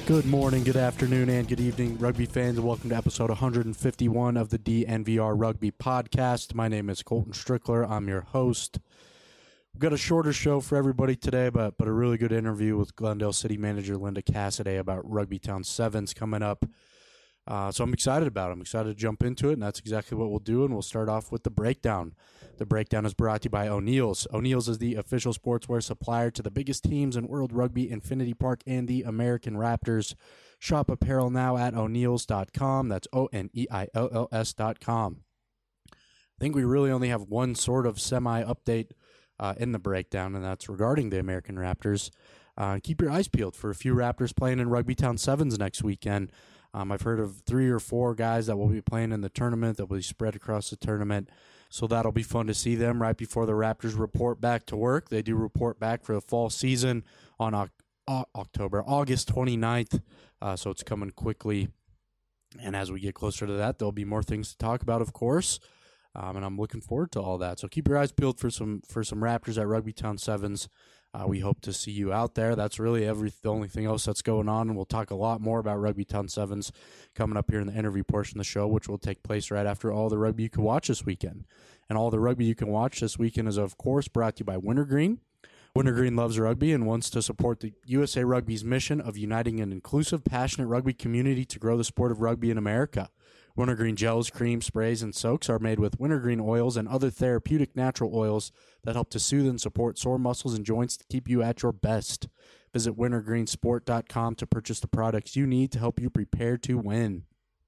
Good morning, good afternoon, and good evening, rugby fans, and welcome to episode 151 of the DNVR Rugby Podcast. My name is Colton Strickler. I'm your host. We've got a shorter show for everybody today, but a really good interview with Glendale City Manager Linda Cassidy about Rugby Town Sevens coming up. So I'm excited about it. I'm excited to jump into it, and that's exactly what we'll do, and we'll start off with the breakdown. The breakdown is brought to you by O'Neill's. O'Neill's is the official sportswear supplier to the biggest teams in World Rugby, Infinity Park, and the American Raptors. Shop apparel now at O'Neills.com. That's ONEILLS.com. I think we really only have one sort of semi-update in the breakdown, and that's regarding the American Raptors. Keep your eyes peeled for a few Raptors playing in Rugby Town Sevens next weekend. I've heard of 3 or 4 guys that will be playing in the tournament that will be spread across the tournament. So that'll be fun to see them right before the Raptors report back to work. They do report back for the fall season on August 29th, so it's coming quickly. And as we get closer to that, there'll be more things to talk about, of course, and I'm looking forward to all that. So keep your eyes peeled for some Raptors at Rugby Town Sevens. We hope to see you out there. That's really the only thing else that's going on, and we'll talk a lot more about Rugby Town Sevens coming up here in the interview portion of the show, which will take place right after all the rugby you can watch this weekend. And all the rugby you can watch this weekend is, of course, brought to you by Wintergreen. Wintergreen loves rugby and wants to support the USA Rugby's mission of uniting an inclusive, passionate rugby community to grow the sport of rugby in America. Wintergreen gels, creams, sprays, and soaks are made with wintergreen oils and other therapeutic natural oils that help to soothe and support sore muscles and joints to keep you at your best. Visit wintergreensport.com to purchase the products you need to help you prepare to win.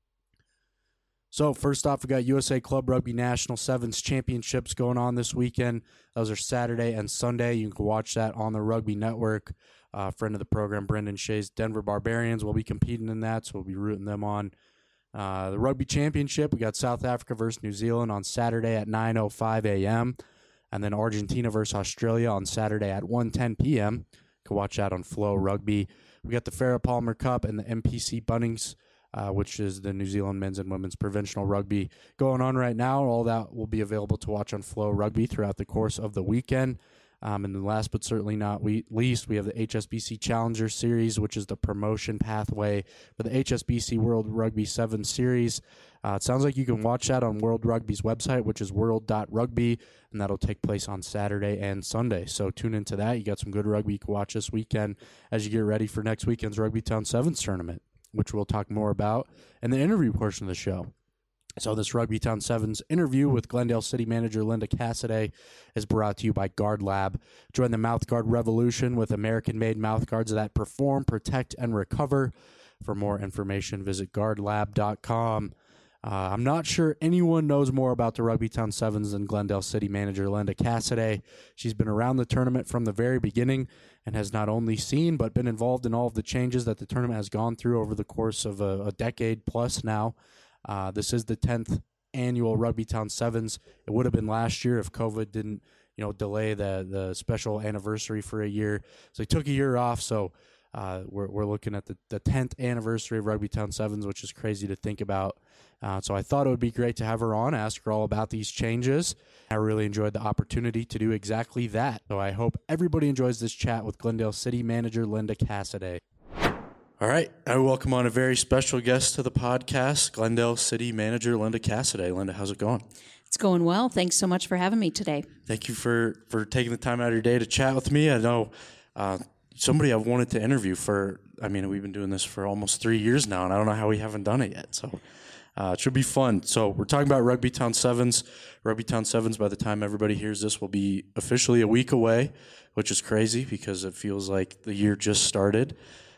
So first off, we got USA Club Rugby National Sevens Championships going on this weekend. Those are Saturday and Sunday. You can watch that on the Rugby Network. Friend of the program, Brendan Shea's Denver Barbarians, will be competing in that, so we'll be rooting them on. The Rugby Championship, we got South Africa versus New Zealand on Saturday at 9:05 a.m. and then Argentina versus Australia on Saturday at 1:10 p.m. You can watch that on Flow Rugby. We got the Farrah Palmer Cup and the MPC Bunnings, which is the New Zealand men's and women's provincial rugby going on right now. All that will be available to watch on Flow Rugby throughout the course of the weekend. And then last but certainly not least, we have the HSBC Challenger Series, which is the promotion pathway for the HSBC World Rugby 7 Series. It sounds like you can watch that on World Rugby's website, which is world.rugby, and that'll take place on Saturday and Sunday. So tune into that. You got some good rugby you can watch this weekend as you get ready for next weekend's Rugby Town Sevens tournament, which we'll talk more about in the interview portion of the show. So this Rugby Town Sevens interview with Glendale City Manager Linda Cassidy is brought to you by Guard Lab. Join the mouthguard revolution with American-made mouthguards that perform, protect, and recover. For more information, visit guardlab.com. I'm not sure anyone knows more about the Rugby Town Sevens than Glendale City Manager Linda Cassidy. She's been around the tournament from the very beginning and has not only seen but been involved in all of the changes that the tournament has gone through over the course of a decade plus now. This is the 10th annual Rugby Town Sevens. It would have been last year if COVID didn't, delay the special anniversary for a year. So they took a year off. So we're looking at the 10th anniversary of Rugby Town Sevens, which is crazy to think about. So I thought it would be great to have her on, ask her all about these changes. I really enjoyed the opportunity to do exactly that. So I hope everybody enjoys this chat with Glendale City Manager Linda Cassidy. All right, I welcome on a very special guest to the podcast, Glendale City Manager Linda Cassidy. Linda, how's it going? It's going well. Thanks so much for having me today. Thank you for taking the time out of your day to chat with me. I know somebody I've wanted to interview we've been doing this for almost 3 years now, and I don't know how we haven't done it yet. So it should be fun. So we're talking about Rugby Town Sevens. Rugby Town Sevens, by the time everybody hears this, will be officially a week away, which is crazy because it feels like the year just started.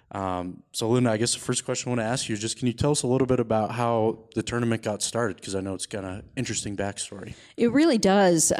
So Linda, I guess the first question I want to ask you is just, can you tell us a little bit about how the tournament got started? Because I know it's got an interesting backstory. It really does.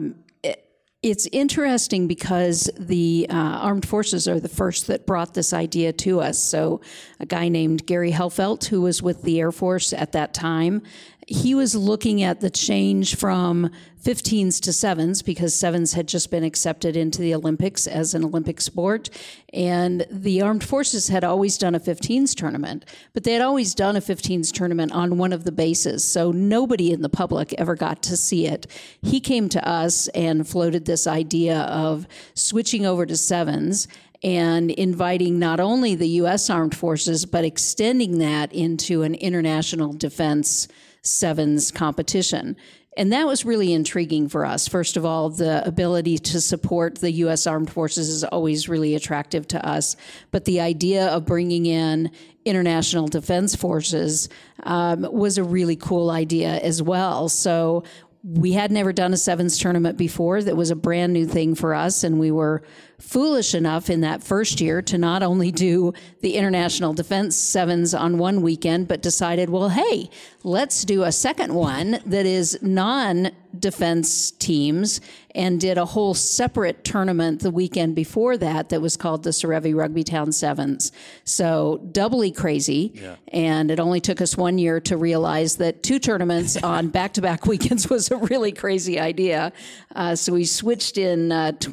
It's interesting because the armed forces are the first that brought this idea to us. So a guy named Gary Helfelt, who was with the Air Force at that time, he was looking at the change from 15s to 7s because 7s had just been accepted into the Olympics as an Olympic sport. And the armed forces had always done a 15s tournament, but they had always done a 15s tournament on one of the bases. So nobody in the public ever got to see it. He came to us and floated this idea of switching over to 7s. and inviting not only the U.S. Armed Forces, but extending that into an international defense sevens competition. And that was really intriguing for us. First of all, the ability to support the U.S. Armed Forces is always really attractive to us. But the idea of bringing in international defense forces was a really cool idea as well. So we had never done a sevens tournament before. That was a brand new thing for us, and we were foolish enough in that first year to not only do the International Defense Sevens on one weekend, but decided, well, hey, let's do a second one that is non-defense teams, and did a whole separate tournament the weekend before that was called the Serevi Rugbytown Sevens. So doubly crazy, and it only took us 1 year to realize that 2 tournaments on back-to-back weekends was a really crazy idea. So we switched in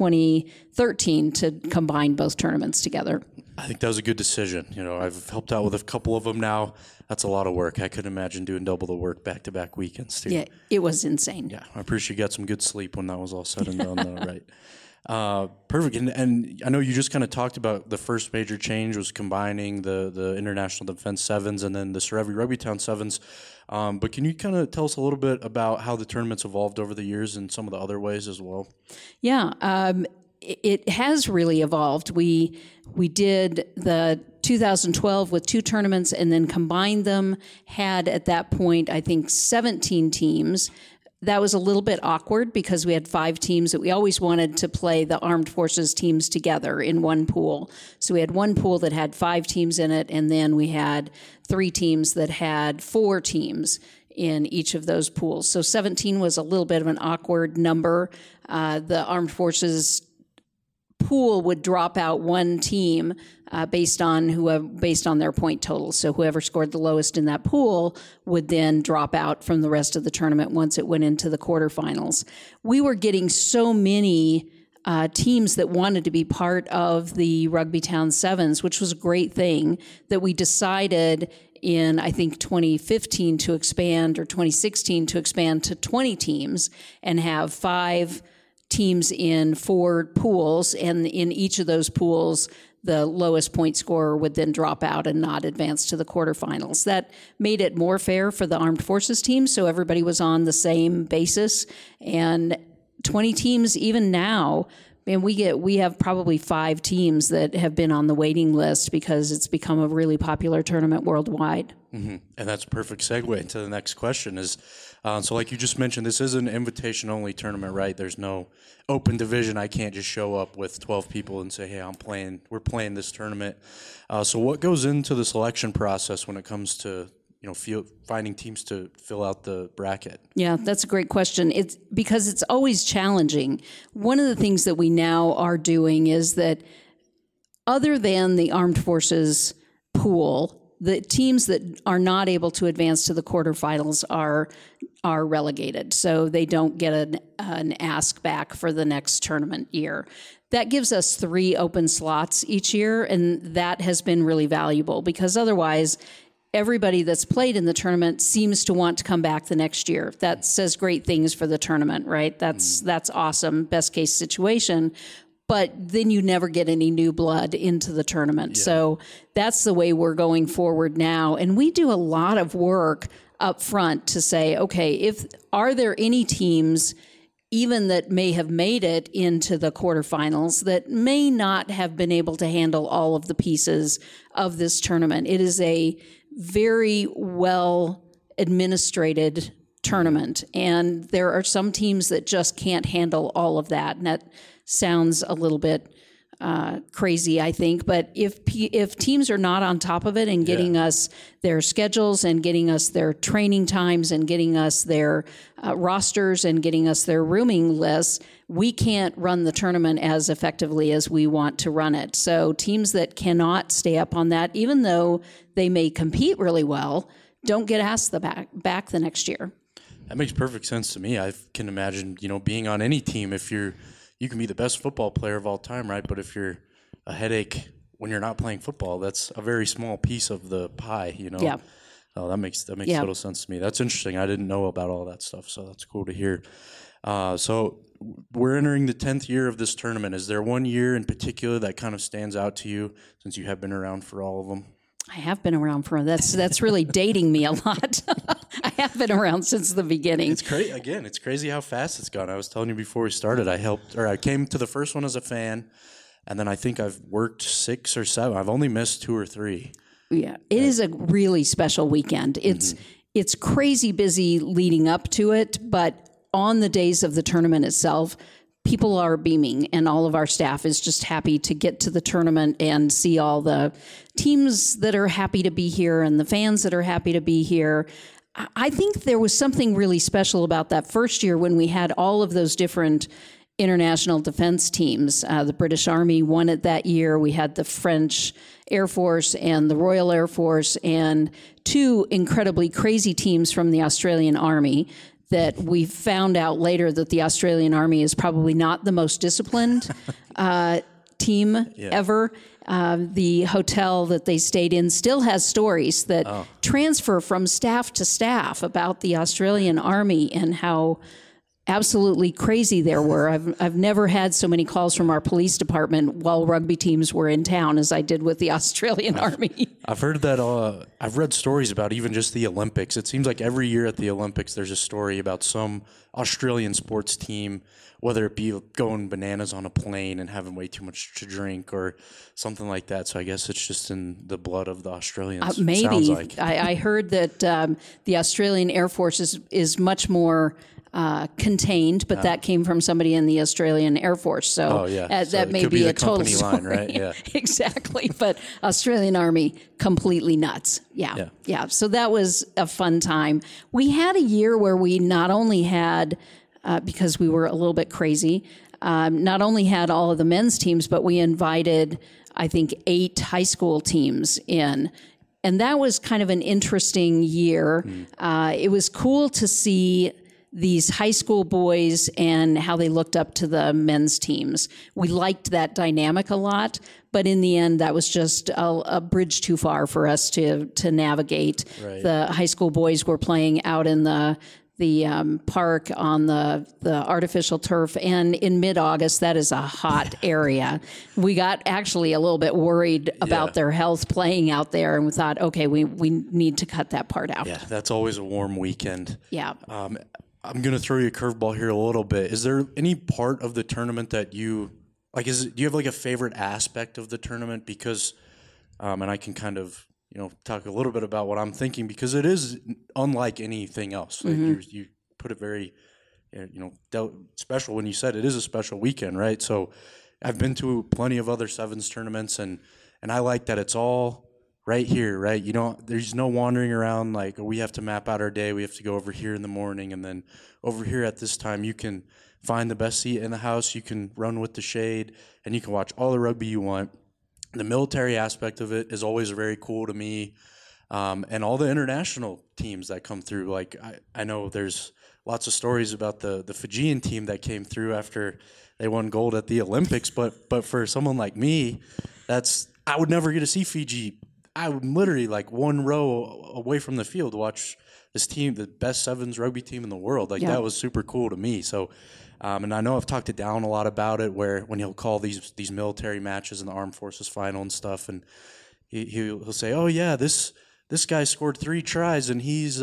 2013 to combine both tournaments together. I think that was a good decision. You know, I've helped out with a couple of them now. That's a lot of work. I couldn't imagine doing double the work back-to-back weekends, too. Yeah, it was insane. Yeah, I appreciate you got some good sleep when that was all said and done, though, right? Perfect. And I know you just kind of talked about the first major change was combining the International Defense Sevens and then the Serevi Rugbytown Sevens. But can you kind of tell us a little bit about how the tournament's evolved over the years and some of the other ways as well? Yeah, it has really evolved. We did the 2012 with 2 tournaments and then combined them, had at that point, I think, 17 teams. That was a little bit awkward because we had 5 teams that we always wanted to play the Armed Forces teams together in one pool. So we had one pool that had 5 teams in it, and then we had 3 teams that had 4 teams in each of those pools. So 17 was a little bit of an awkward number. The Armed Forces pool would drop out one team based on their point total. So whoever scored the lowest in that pool would then drop out from the rest of the tournament once it went into the quarterfinals. We were getting so many teams that wanted to be part of the Rugbytown Sevens, which was a great thing, that we decided in, I think, 2015 to expand, or 2016 to expand to 20 teams and have 5 teams in 4 pools, and in each of those pools, the lowest point scorer would then drop out and not advance to the quarterfinals. That made it more fair for the Armed Forces teams, so everybody was on the same basis. And 20 teams, even now, and we have probably 5 teams that have been on the waiting list because it's become a really popular tournament worldwide. Mm-hmm. And that's a perfect segue into the next question is, so like you just mentioned, this is an invitation-only tournament, right? There's no open division. I can't just show up with 12 people and say, hey, we're playing this tournament. So what goes into the selection process when it comes to, finding teams to fill out the bracket? Yeah, that's a great question. It's because it's always challenging. One of the things that we now are doing is that other than the Armed Forces pool, the teams that are not able to advance to the quarterfinals are relegated, so they don't get an ask back for the next tournament year. That gives us 3 open slots each year, and that has been really valuable because otherwise everybody that's played in the tournament seems to want to come back the next year. That says great things for the tournament, right? That's awesome, best case situation. But then you never get any new blood into the tournament. Yeah. So that's the way we're going forward now. And we do a lot of work up front to say, okay, are there any teams even that may have made it into the quarterfinals that may not have been able to handle all of the pieces of this tournament? It is a very well administrated tournament, and there are some teams that just can't handle all of that, and that sounds a little bit crazy, I think. But if teams are not on top of it and getting us their schedules and getting us their training times and getting us their rosters and getting us their rooming lists, we can't run the tournament as effectively as we want to run it. So teams that cannot stay up on that, even though they may compete really well, don't get asked back the next year. That makes perfect sense to me. I can imagine, being on any team, you can be the best football player of all time, right? But if you're a headache when you're not playing football, that's a very small piece of the pie, Yeah. Oh, that makes total sense to me. That's interesting. I didn't know about all that stuff, so that's cool to hear. So we're entering the 10th year of this tournament. Is there one year in particular that kind of stands out to you since you have been around for all of them? I have been around for that's really dating me a lot. I have been around since the beginning. It's crazy. Again, it's crazy how fast it's gone. I was telling you before we started. I came to the first one as a fan, and then I think I've worked 6 or 7. I've only missed 2 or 3. Yeah, it is a really special weekend. It's crazy busy leading up to it, but on the days of the tournament itself, people are beaming, and all of our staff is just happy to get to the tournament and see all the teams that are happy to be here and the fans that are happy to be here. I think there was something really special about that first year when we had all of those different international defense teams. The British Army won it that year. We had the French Air Force and the Royal Air Force and 2 incredibly crazy teams from the Australian Army that we found out later that the Australian Army is probably not the most disciplined team ever. The hotel that they stayed in still has stories that transfer from staff to staff about the Australian Army and how absolutely crazy there were. I've never had so many calls from our police department while rugby teams were in town as I did with the Australian Army. I've heard that. I've read stories about even just the Olympics. It seems like every year at the Olympics, there's a story about some Australian sports team, whether it be going bananas on a plane and having way too much to drink or something like that. So I guess it's just in the blood of the Australians. Maybe. Sounds like. I heard that the Australian Air Force is much more contained, but that came from somebody in the Australian Air Force. So, that may be a total story. Line, right? Yeah. Exactly. But Australian Army, completely nuts. Yeah. So that was a fun time. We had a year where we not only had, because we were a little bit crazy, not only had all of the men's teams, but we invited, I think, 8 high school teams in. And that was kind of an interesting year. It was cool to see these high school boys and how they looked up to the men's teams. We liked that dynamic a lot, but in the end, that was just a bridge too far for us to navigate. Right. The high school boys were playing out in the park on the artificial turf, and in mid-August, that is a hot area. We got actually a little bit worried about their health playing out there, and we thought, okay, we need to cut that part out. Yeah, that's always a warm weekend. Yeah. I'm going to throw you a curveball here a little bit. Is there any part of the tournament that you like? Do you have like a favorite aspect of the tournament? Because, and I can kind of talk a little bit about what I'm thinking, because it is unlike anything else. Like you put it very, special when you said it is a special weekend, right? So, I've been to plenty of other sevens tournaments, and I like that it's all right here, right? There's no wandering around like, we have to map out our day. We have to go over here in the morning, and then over here at this time, you can find the best seat in the house. You can run with the shade, and you can watch all the rugby you want. The military aspect of it is always very cool to me, and all the international teams that come through. Like I know there's lots of stories about the Fijian team that came through after they won gold at the Olympics, but for someone like me, I would never get to see Fiji. I would literally like one row away from the field to watch this team, the best sevens rugby team in the world. That was super cool to me. So, and I know I've talked to Down a lot about it, where when he'll call these military matches in the Armed Forces final and stuff, and he'll say, "Oh yeah, this guy scored 3 tries and he's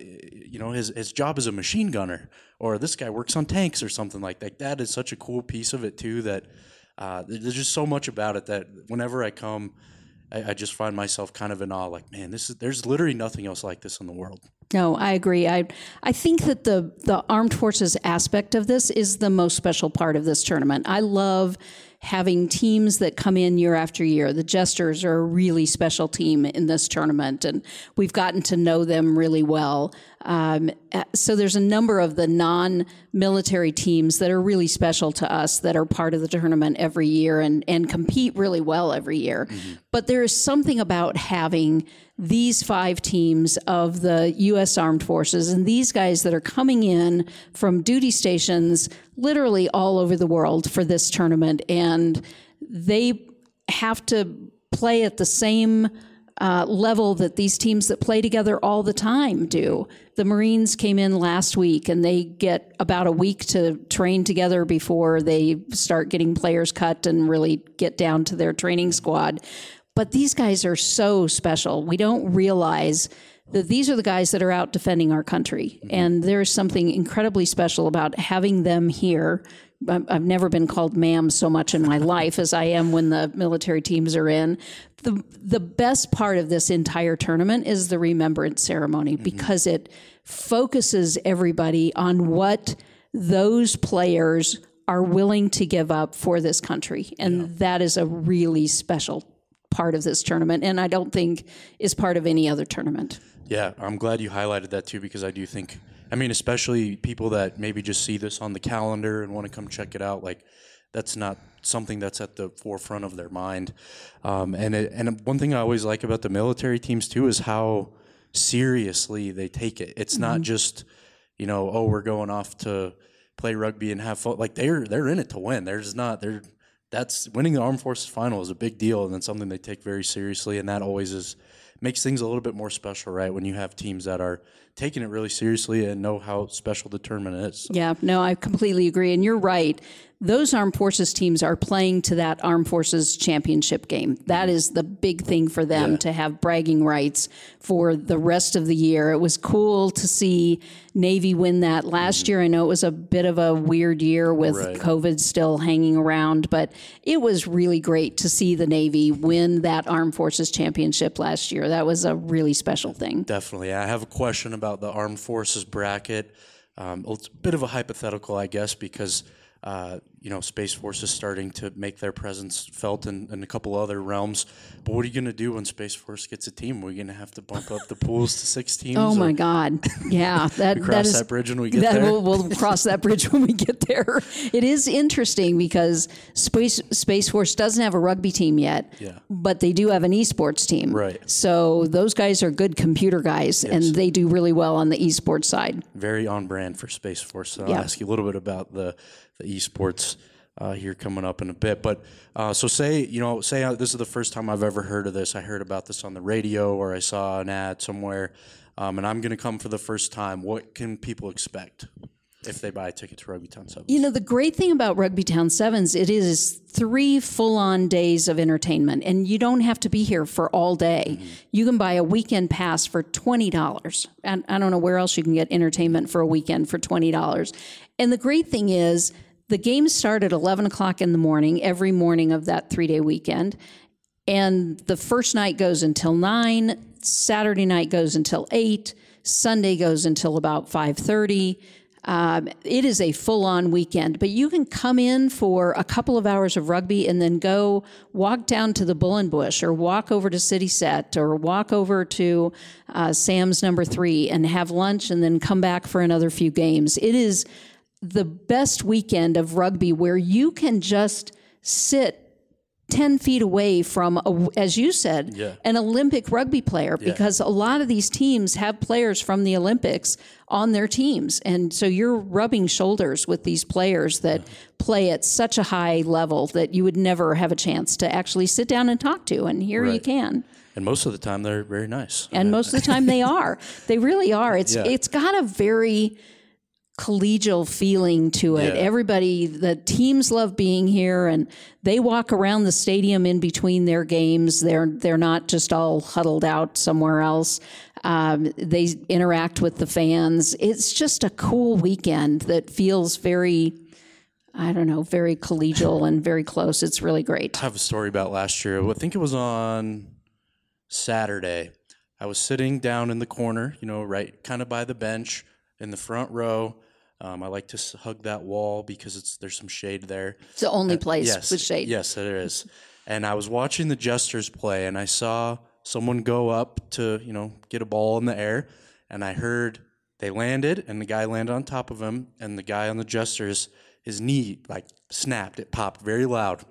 his job is a machine gunner," or "This guy works on tanks," or something like that. That is such a cool piece of it too. That there's just so much about it that whenever I come, I just find myself kind of in awe. Like, man, there's literally nothing else like this in the world. No, I agree. I think that the Armed Forces aspect of this is the most special part of this tournament. I love having teams that come in year after year. The Jesters are a really special team in this tournament, and we've gotten to know them really well. So there's a number of the non-military teams that are really special to us that are part of the tournament every year and compete really well every year. Mm-hmm. But there is something about having these 5 teams of the U.S. Armed Forces and these guys that are coming in from duty stations literally all over the world for this tournament, and they have to play at the same level that these teams that play together all the time do. The Marines came in last week, and they get about a week to train together before they start getting players cut and really get down to their training squad. But these guys are so special. We don't realize that these are the guys that are out defending our country. And there's something incredibly special about having them here. I've never been called ma'am so much in my life as I am when the military teams are in. The best part of this entire tournament is the remembrance ceremony, because it focuses everybody on what those players are willing to give up for this country. And that is a really special part of this tournament, and I don't think is part of any other tournament. Yeah, I'm glad you highlighted that too, because I do think, I mean, especially people that maybe just see this on the calendar and want to come check it out, like that's not something that's at the forefront of their mind. And one thing I always like about the military teams too is how seriously they take it. It's not just, you know, oh, we're going off to play rugby and have fun. Like they're in it to win. That's winning the Armed Forces final is a big deal, and it's something they take very seriously, and that always makes things a little bit more special, right? When you have teams that are taking it really seriously and know how special the tournament is. Yeah, no, I completely agree. And you're right. Those Armed Forces teams are playing to that Armed Forces championship game. That is the big thing for them, to have bragging rights for the rest of the year. It was cool to see Navy win that last year. I know it was a bit of a weird year with COVID still hanging around, but it was really great to see the Navy win that Armed Forces championship last year. That was a really special thing. Definitely. I have a question about the Armed Forces bracket. It's a bit of a hypothetical, I guess, because Space Force is starting to make their presence felt in a couple other realms. But what are you going to do when Space Force gets a team? Are we going to have to bump up the pools to 6 teams? Oh, my God. Yeah. That bridge when we get there? We'll cross that bridge when we get there. It is interesting because Space Force doesn't have a rugby team yet, but they do have an esports team. Right. So those guys are good computer guys, and they do really well on the esports side. Very on brand for Space Force. So I'll ask you a little bit about the esports here coming up in a bit. But so say this is the first time I've ever heard of this. I heard about this on the radio or I saw an ad somewhere, and I'm going to come for the first time. What can people expect if they buy a ticket to Rugbytown Sevens? You know, the great thing about Rugbytown Sevens, it is 3 full-on days of entertainment, and you don't have to be here for all day. You can buy a weekend pass for $20. And I don't know where else you can get entertainment for a weekend for $20. And the great thing is, the games start at 11 o'clock in the morning, every morning of that 3-day weekend. And the first night goes until 9, Saturday night goes until 8, Sunday goes until about 5:30. It is a full-on weekend, but you can come in for a couple of hours of rugby and then go walk down to the Bullenbush or walk over to City Set or walk over to Sam's number 3 and have lunch and then come back for another few games. It is the best weekend of rugby where you can just sit 10 feet away from, as you said, an Olympic rugby player, because a lot of these teams have players from the Olympics on their teams. And so you're rubbing shoulders with these players that play at such a high level that you would never have a chance to actually sit down and talk to. And here you can. And most of the time they're very nice. And most of the time they are. They really are. It's got a very collegial feeling to it. Everybody, the teams love being here, and they walk around the stadium in between their games. They're not just all huddled out somewhere else. They interact with the fans. It's just a cool weekend that feels very, very collegial and very close. It's really great. I have a story about last year. I think it was on Saturday. I was sitting down in the corner, right kind of by the bench in the front row. I like to hug that wall because there's some shade there. It's the only place with shade. Yes, it is. And I was watching the Jesters play, and I saw someone go up to, get a ball in the air, and I heard they landed, and the guy landed on top of him, and the guy on the Jesters, his knee, snapped. It popped very loud.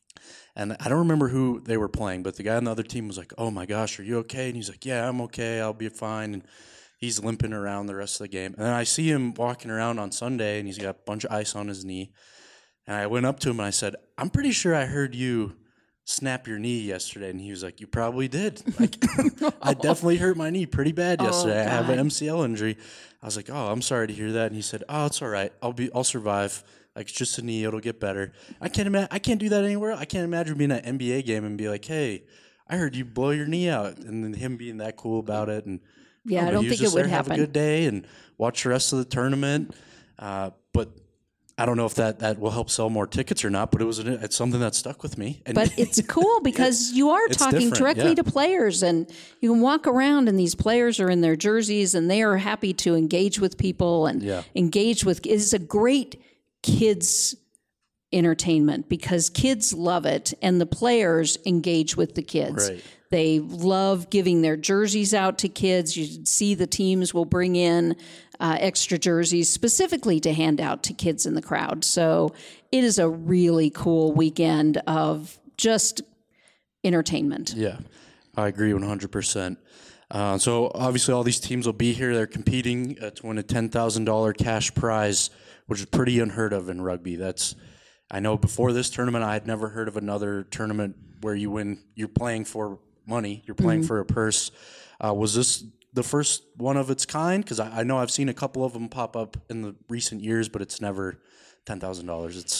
And I don't remember who they were playing, but the guy on the other team was like, "Oh, my gosh, are you okay?" And he's like, "Yeah, I'm okay. I'll be fine." And he's limping around the rest of the game. And then I see him walking around on Sunday, and he's got a bunch of ice on his knee. And I went up to him, and I said, "I'm pretty sure I heard you snap your knee yesterday?" And he was like, "You probably did. Like, I definitely hurt my knee pretty bad yesterday. I have an MCL injury." I was like, "Oh, I'm sorry to hear that." And he said, "Oh, it's all right. I'll survive. Like, it's just a knee. It'll get better." I can't do that anywhere. I can't imagine being at an NBA game and be like, "Hey, I heard you blow your knee out," and then him being that cool about it. And I don't think it would happen. Have a good day and watch the rest of the tournament. But I don't know if that will help sell more tickets or not, but it's something that stuck with me. And but it's cool because you are talking directly to players, and you can walk around and these players are in their jerseys and they are happy to engage with people and engage with. It's a great kids entertainment because kids love it and the players engage with the kids. Right. They love giving their jerseys out to kids. You see the teams will bring in extra jerseys specifically to hand out to kids in the crowd. So it is a really cool weekend of just entertainment. Yeah, I agree 100%. So obviously all these teams will be here. They're competing to win a $10,000 cash prize, which is pretty unheard of in rugby. I know before this tournament, I had never heard of another tournament where you're playing for money, you're playing for a purse. Was this the first one of its kind? Because I know I've seen a couple of them pop up in the recent years, but it's never $10,000. It's,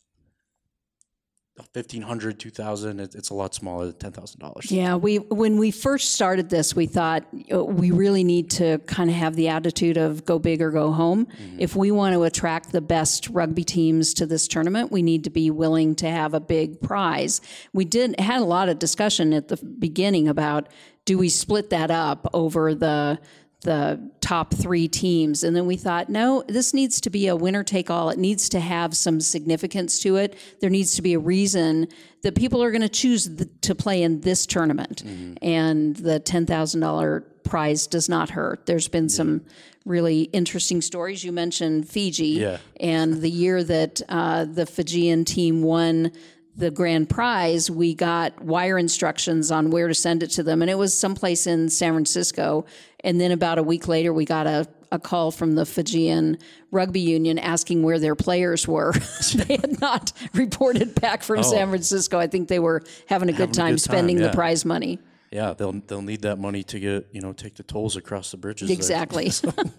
$1,500, $2,000. It's a lot smaller than $10,000. Yeah, when we first started this, we thought we really need to kind of have the attitude of go big or go home. Mm-hmm. If we want to attract the best rugby teams to this tournament, we need to be willing to have a big prize. We had a lot of discussion at the beginning about, do we split that up over the top three teams? And then we thought, no, this needs to be a winner take all. It needs to have some significance to it. There needs to be a reason that people are going to choose to play in this tournament. Mm-hmm. And the $10,000 prize does not hurt. There's been some really interesting stories. You mentioned Fiji and the year that the Fijian team won the grand prize, we got wire instructions on where to send it to them. And it was someplace in San Francisco. And then about a week later, we got a call from the Fijian Rugby Union asking where their players were. They had not reported back from San Francisco. I think they were having a good time spending the prize money. Yeah, they'll need that money to get, take the tolls across the bridges. Exactly.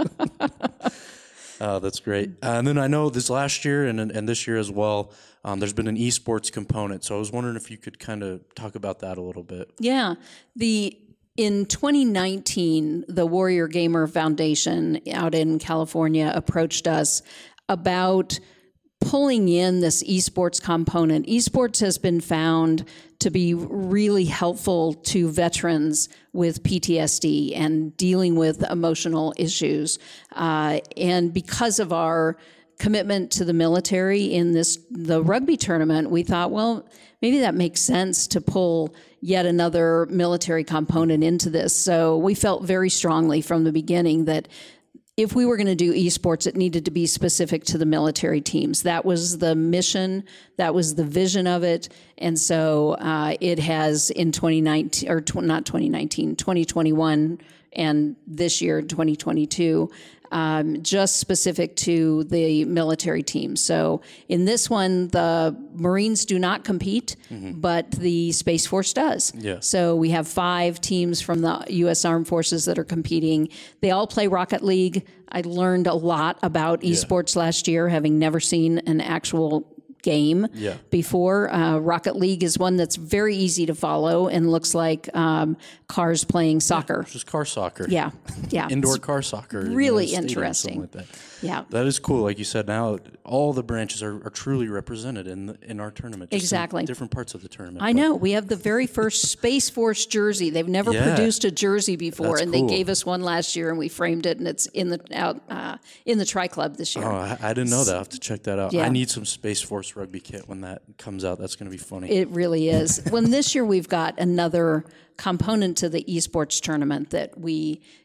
That's great. And then I know this last year and this year as well, there's been an esports component. So I was wondering if you could kind of talk about that a little bit. Yeah. In 2019, the Warrior Gamer Foundation out in California approached us about pulling in this esports component. Esports has been found to be really helpful to veterans with PTSD and dealing with emotional issues. And because of our commitment to the military in the rugby tournament, we thought, well, maybe that makes sense to pull yet another military component into this. So we felt very strongly from the beginning that if we were going to do esports, it needed to be specific to the military teams. That was the mission. That was the vision of it. And so it has in 2019, or not 2019, 2021, and this year, 2022, just specific to the military team. So in this one, the Marines do not compete, but the Space Force does. Yeah. So we have 5 teams from the U.S. Armed Forces that are competing. They all play Rocket League. I learned a lot about esports last year, having never seen an actual game before. Rocket League is one that's very easy to follow and looks like cars playing soccer. Just car soccer. Yeah. Indoor car soccer. Really interesting. Like that. Yeah. That is cool. Like you said, now all the branches are truly represented in our tournament. Just exactly. In different parts of the tournament. I know. We have the very first Space Force jersey. They've never produced a jersey before, and they gave us one last year, and we framed it, and it's in the Tri Club this year. Oh, I didn't know that. I have to check that out. Yeah. I need some Space Force rugby kit when that comes out. That's going to be funny. It really is. When this year we've got another component to the esports tournament that we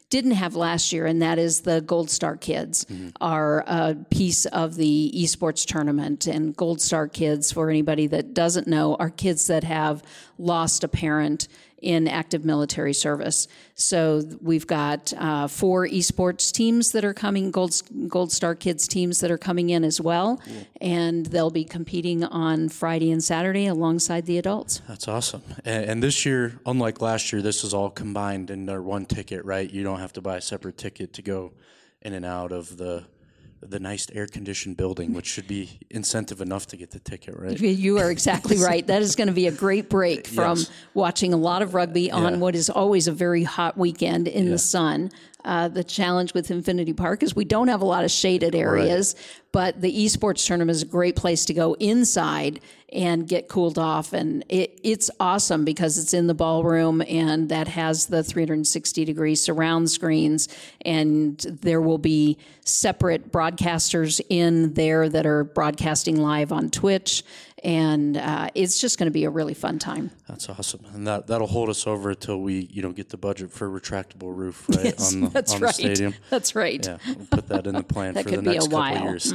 didn't have last year, and that is the Gold Star Kids are a piece of the esports tournament. And Gold Star Kids, for anybody that doesn't know, are kids that have lost a parent in active military service. So we've got 4 esports teams that are coming, Gold Star Kids teams that are coming in as well, and they'll be competing on Friday and Saturday alongside the adults. That's awesome. And this year, unlike last year, this is all combined in their one ticket, right? You don't have to buy a separate ticket to go in and out of the nice air-conditioned building, which should be incentive enough to get the ticket, right? You are exactly right. That is going to be a great break from watching a lot of rugby on what is always a very hot weekend in the sun. The challenge with Infinity Park is we don't have a lot of shaded areas, but the esports tournament is a great place to go inside and get cooled off. And it's awesome because it's in the ballroom, and that has the 360-degree surround screens, and there will be separate broadcasters in there that are broadcasting live on Twitch. And it's just going to be a really fun time. That's awesome, and that'll hold us over until we get the budget for a retractable roof, right? Yes, on the stadium. That's right. Yeah, we'll put that in the plan That for could the be next a couple while. years.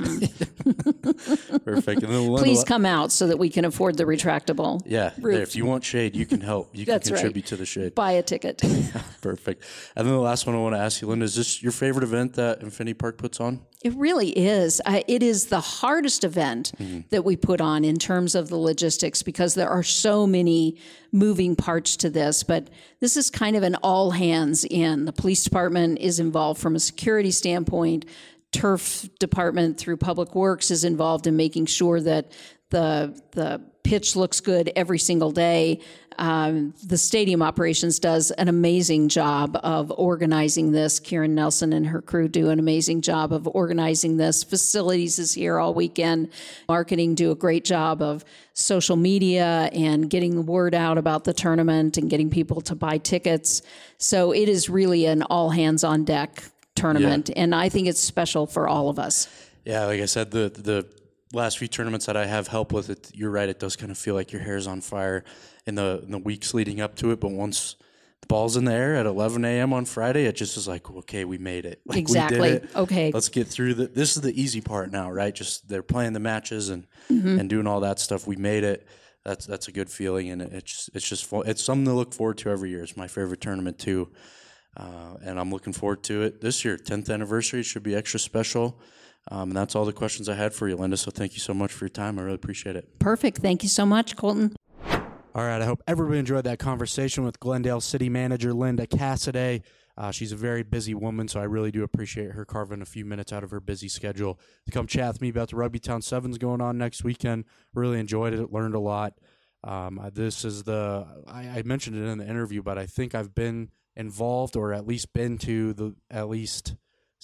Perfect. And then Please come out so that we can afford the retractable. Yeah, roof. if you want shade, you can help. You can That's contribute to the shade. Buy a ticket. Perfect. And then the last one I want to ask you, Linda, is this your favorite event that Infinity Park puts on? It really is. It is the hardest event that we put on in terms of the logistics, because there are so many moving parts to this. But this is kind of an all hands in. The police department is involved from a security standpoint. Turf department through Public Works is involved in making sure that the pitch looks good every single day. The stadium operations does an amazing job of organizing this. Kieran Nelson and her crew do an amazing job of organizing this. Facilities is here all weekend. Marketing do a great job of social media and getting the word out about the tournament and getting people to buy tickets. So it is really an all hands on deck tournament, and I think it's special for all of us. Yeah, like I said, the last few tournaments that I have helped with it, you're right, it does kind of feel like your hair's on fire in the weeks leading up to it, but once the ball's in the air at 11 a.m. on Friday, it just is like, okay, we made it. Like, exactly. We did it. Okay. Let's get through this is the easy part now, right? Just they're playing the matches and doing all that stuff. We made it. That's a good feeling, and it's just fun. It's something to look forward to every year. It's my favorite tournament too. And I'm looking forward to it this year. 10th anniversary, it should be extra special. And that's all the questions I had for you, Linda. So thank you so much for your time. I really appreciate it. Perfect. Thank you so much, Colton. All right. I hope everybody enjoyed that conversation with Glendale City Manager Linda Cassidy. She's a very busy woman, so I really do appreciate her carving a few minutes out of her busy schedule to come chat with me about the Rugby Town Sevens going on next weekend. Really enjoyed it. Learned a lot. This is I mentioned it in the interview, but I think I've been involved or at least been to at least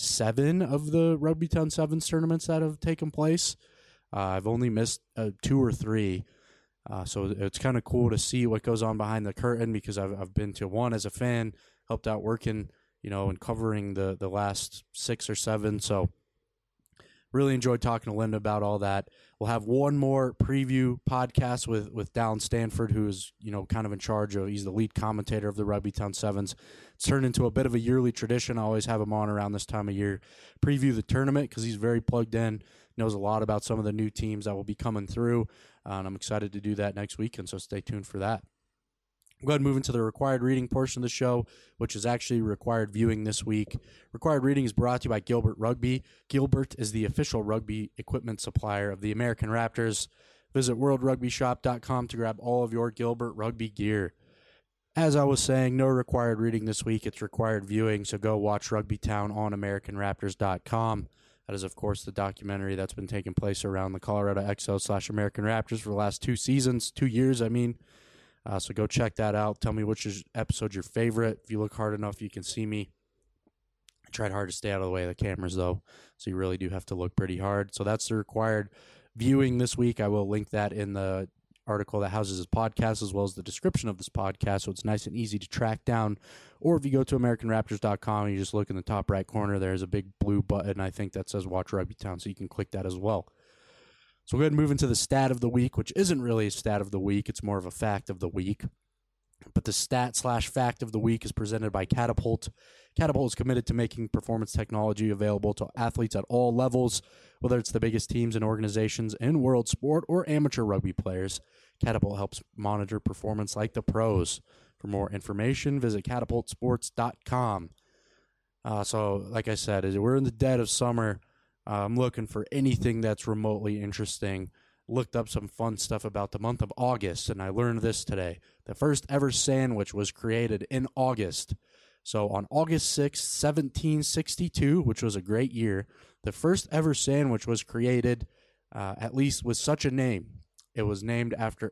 7 of the Rugby Town Sevens tournaments that have taken place. I've only missed 2 or 3. So it's kind of cool to see what goes on behind the curtain, because I've been to one as a fan, helped out working, and covering the last 6 or 7. So really enjoyed talking to Linda about all that. We'll have one more preview podcast with Dallin Stanford, who is, kind of in charge of, he's the lead commentator of the Rugby Town Sevens. It's turned into a bit of a yearly tradition. I always have him on around this time of year, preview the tournament, because he's very plugged in, knows a lot about some of the new teams that will be coming through. And I'm excited to do that next weekend, so stay tuned for that. We'll go ahead and move into the required reading portion of the show, which is actually required viewing this week. Required reading is brought to you by Gilbert Rugby. Gilbert is the official rugby equipment supplier of the American Raptors. Visit worldrugbyshop.com to grab all of your Gilbert Rugby gear. As I was saying, no required reading this week. It's required viewing, so go watch Rugby Town on AmericanRaptors.com. That is, of course, the documentary that's been taking place around the Colorado Exos/American Raptors for the last 2 years, I mean. So go check that out. Tell me which episode's your favorite. If you look hard enough, you can see me. I tried hard to stay out of the way of the cameras, though, so you really do have to look pretty hard. So that's the required viewing this week. I will link that in the article that houses this podcast, as well as the description of this podcast, so it's nice and easy to track down. Or if you go to AmericanRaptors.com and you just look in the top right corner, there's a big blue button, I think, that says Watch Rugby Town, so you can click that as well. So we'll go ahead and move into the stat of the week, which isn't really a stat of the week. It's more of a fact of the week. But the stat/fact of the week is presented by Catapult. Catapult is committed to making performance technology available to athletes at all levels, whether it's the biggest teams and organizations in world sport or amateur rugby players. Catapult helps monitor performance like the pros. For more information, visit catapultsports.com. So, like I said, as we're in the dead of summer, I'm looking for anything that's remotely interesting. Looked up some fun stuff about the month of August, and I learned this today. The first ever sandwich was created in August. So on August 6th, 1762, which was a great year, the first ever sandwich was created, at least with such a name. It was named after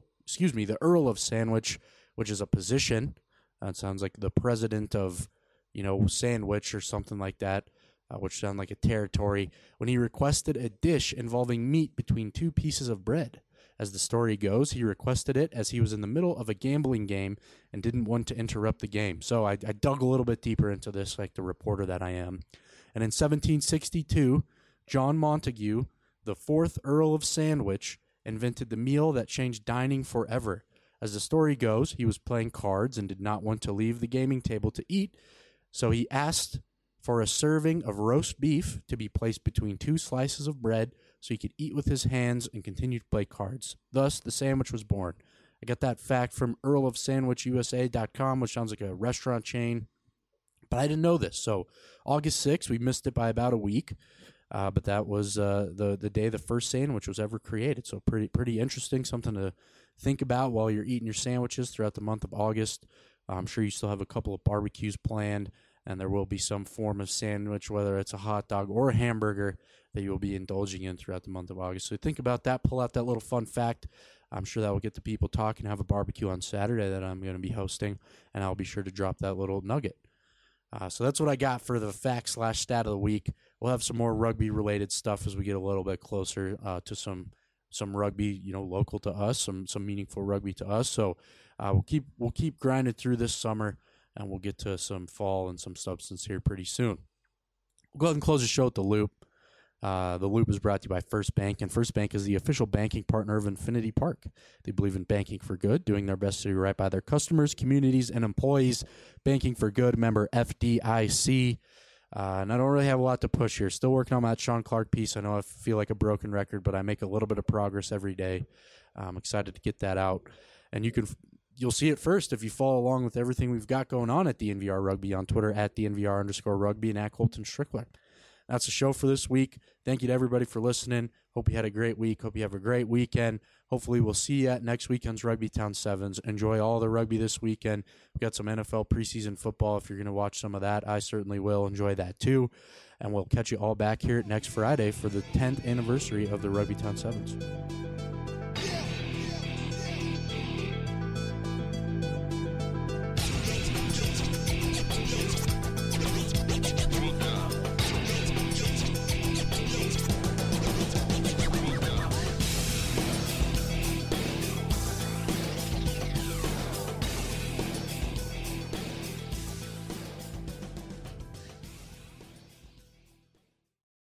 the Earl of Sandwich, which is a position. It sounds like the president of, Sandwich or something like that, which sounds like a territory, when he requested a dish involving meat between two pieces of bread. As the story goes, he requested it as he was in the middle of a gambling game and didn't want to interrupt the game. So I dug a little bit deeper into this, like the reporter that I am. And in 1762, John Montagu, the fourth Earl of Sandwich, invented the meal that changed dining forever. As the story goes, he was playing cards and did not want to leave the gaming table to eat, so he asked for a serving of roast beef to be placed between two slices of bread so he could eat with his hands and continue to play cards. Thus, the sandwich was born. I got that fact from earlofsandwichusa.com, which sounds like a restaurant chain, but I didn't know this. So August 6th, we missed it by about a week, but that was the day the first sandwich was ever created. So pretty interesting, something to think about while you're eating your sandwiches throughout the month of August. I'm sure you still have a couple of barbecues planned, and there will be some form of sandwich, whether it's a hot dog or a hamburger, that you will be indulging in throughout the month of August. So think about that. Pull out that little fun fact. I'm sure that will get the people talking. Have a barbecue on Saturday that I'm going to be hosting, and I'll be sure to drop that little nugget. So that's what I got for the fact/stat of the week. We'll have some more rugby-related stuff as we get a little bit closer to some rugby, local to us, some meaningful rugby to us. So we'll keep grinding through this summer, and we'll get to some fall and some substance here pretty soon. We'll go ahead and close the show with The Loop. The Loop is brought to you by First Bank, and First Bank is the official banking partner of Infinity Park. They believe in banking for good, doing their best to do right by their customers, communities, and employees. Banking for good, member FDIC. And I don't really have a lot to push here. Still working on that Sean Clark piece. I know I feel like a broken record, but I make a little bit of progress every day. I'm excited to get that out. And you'll see it first if you follow along with everything we've got going on at DNVR Rugby on Twitter at DNVR_Rugby and at Colton Strickler. That's the show for this week. Thank you to everybody for listening. Hope you had a great week. Hope you have a great weekend. Hopefully we'll see you at next weekend's Rugby Town Sevens. Enjoy all the rugby this weekend. We've got some NFL preseason football. If you're going to watch some of that, I certainly will enjoy that too. And we'll catch you all back here next Friday for the 10th anniversary of the Rugby Town Sevens.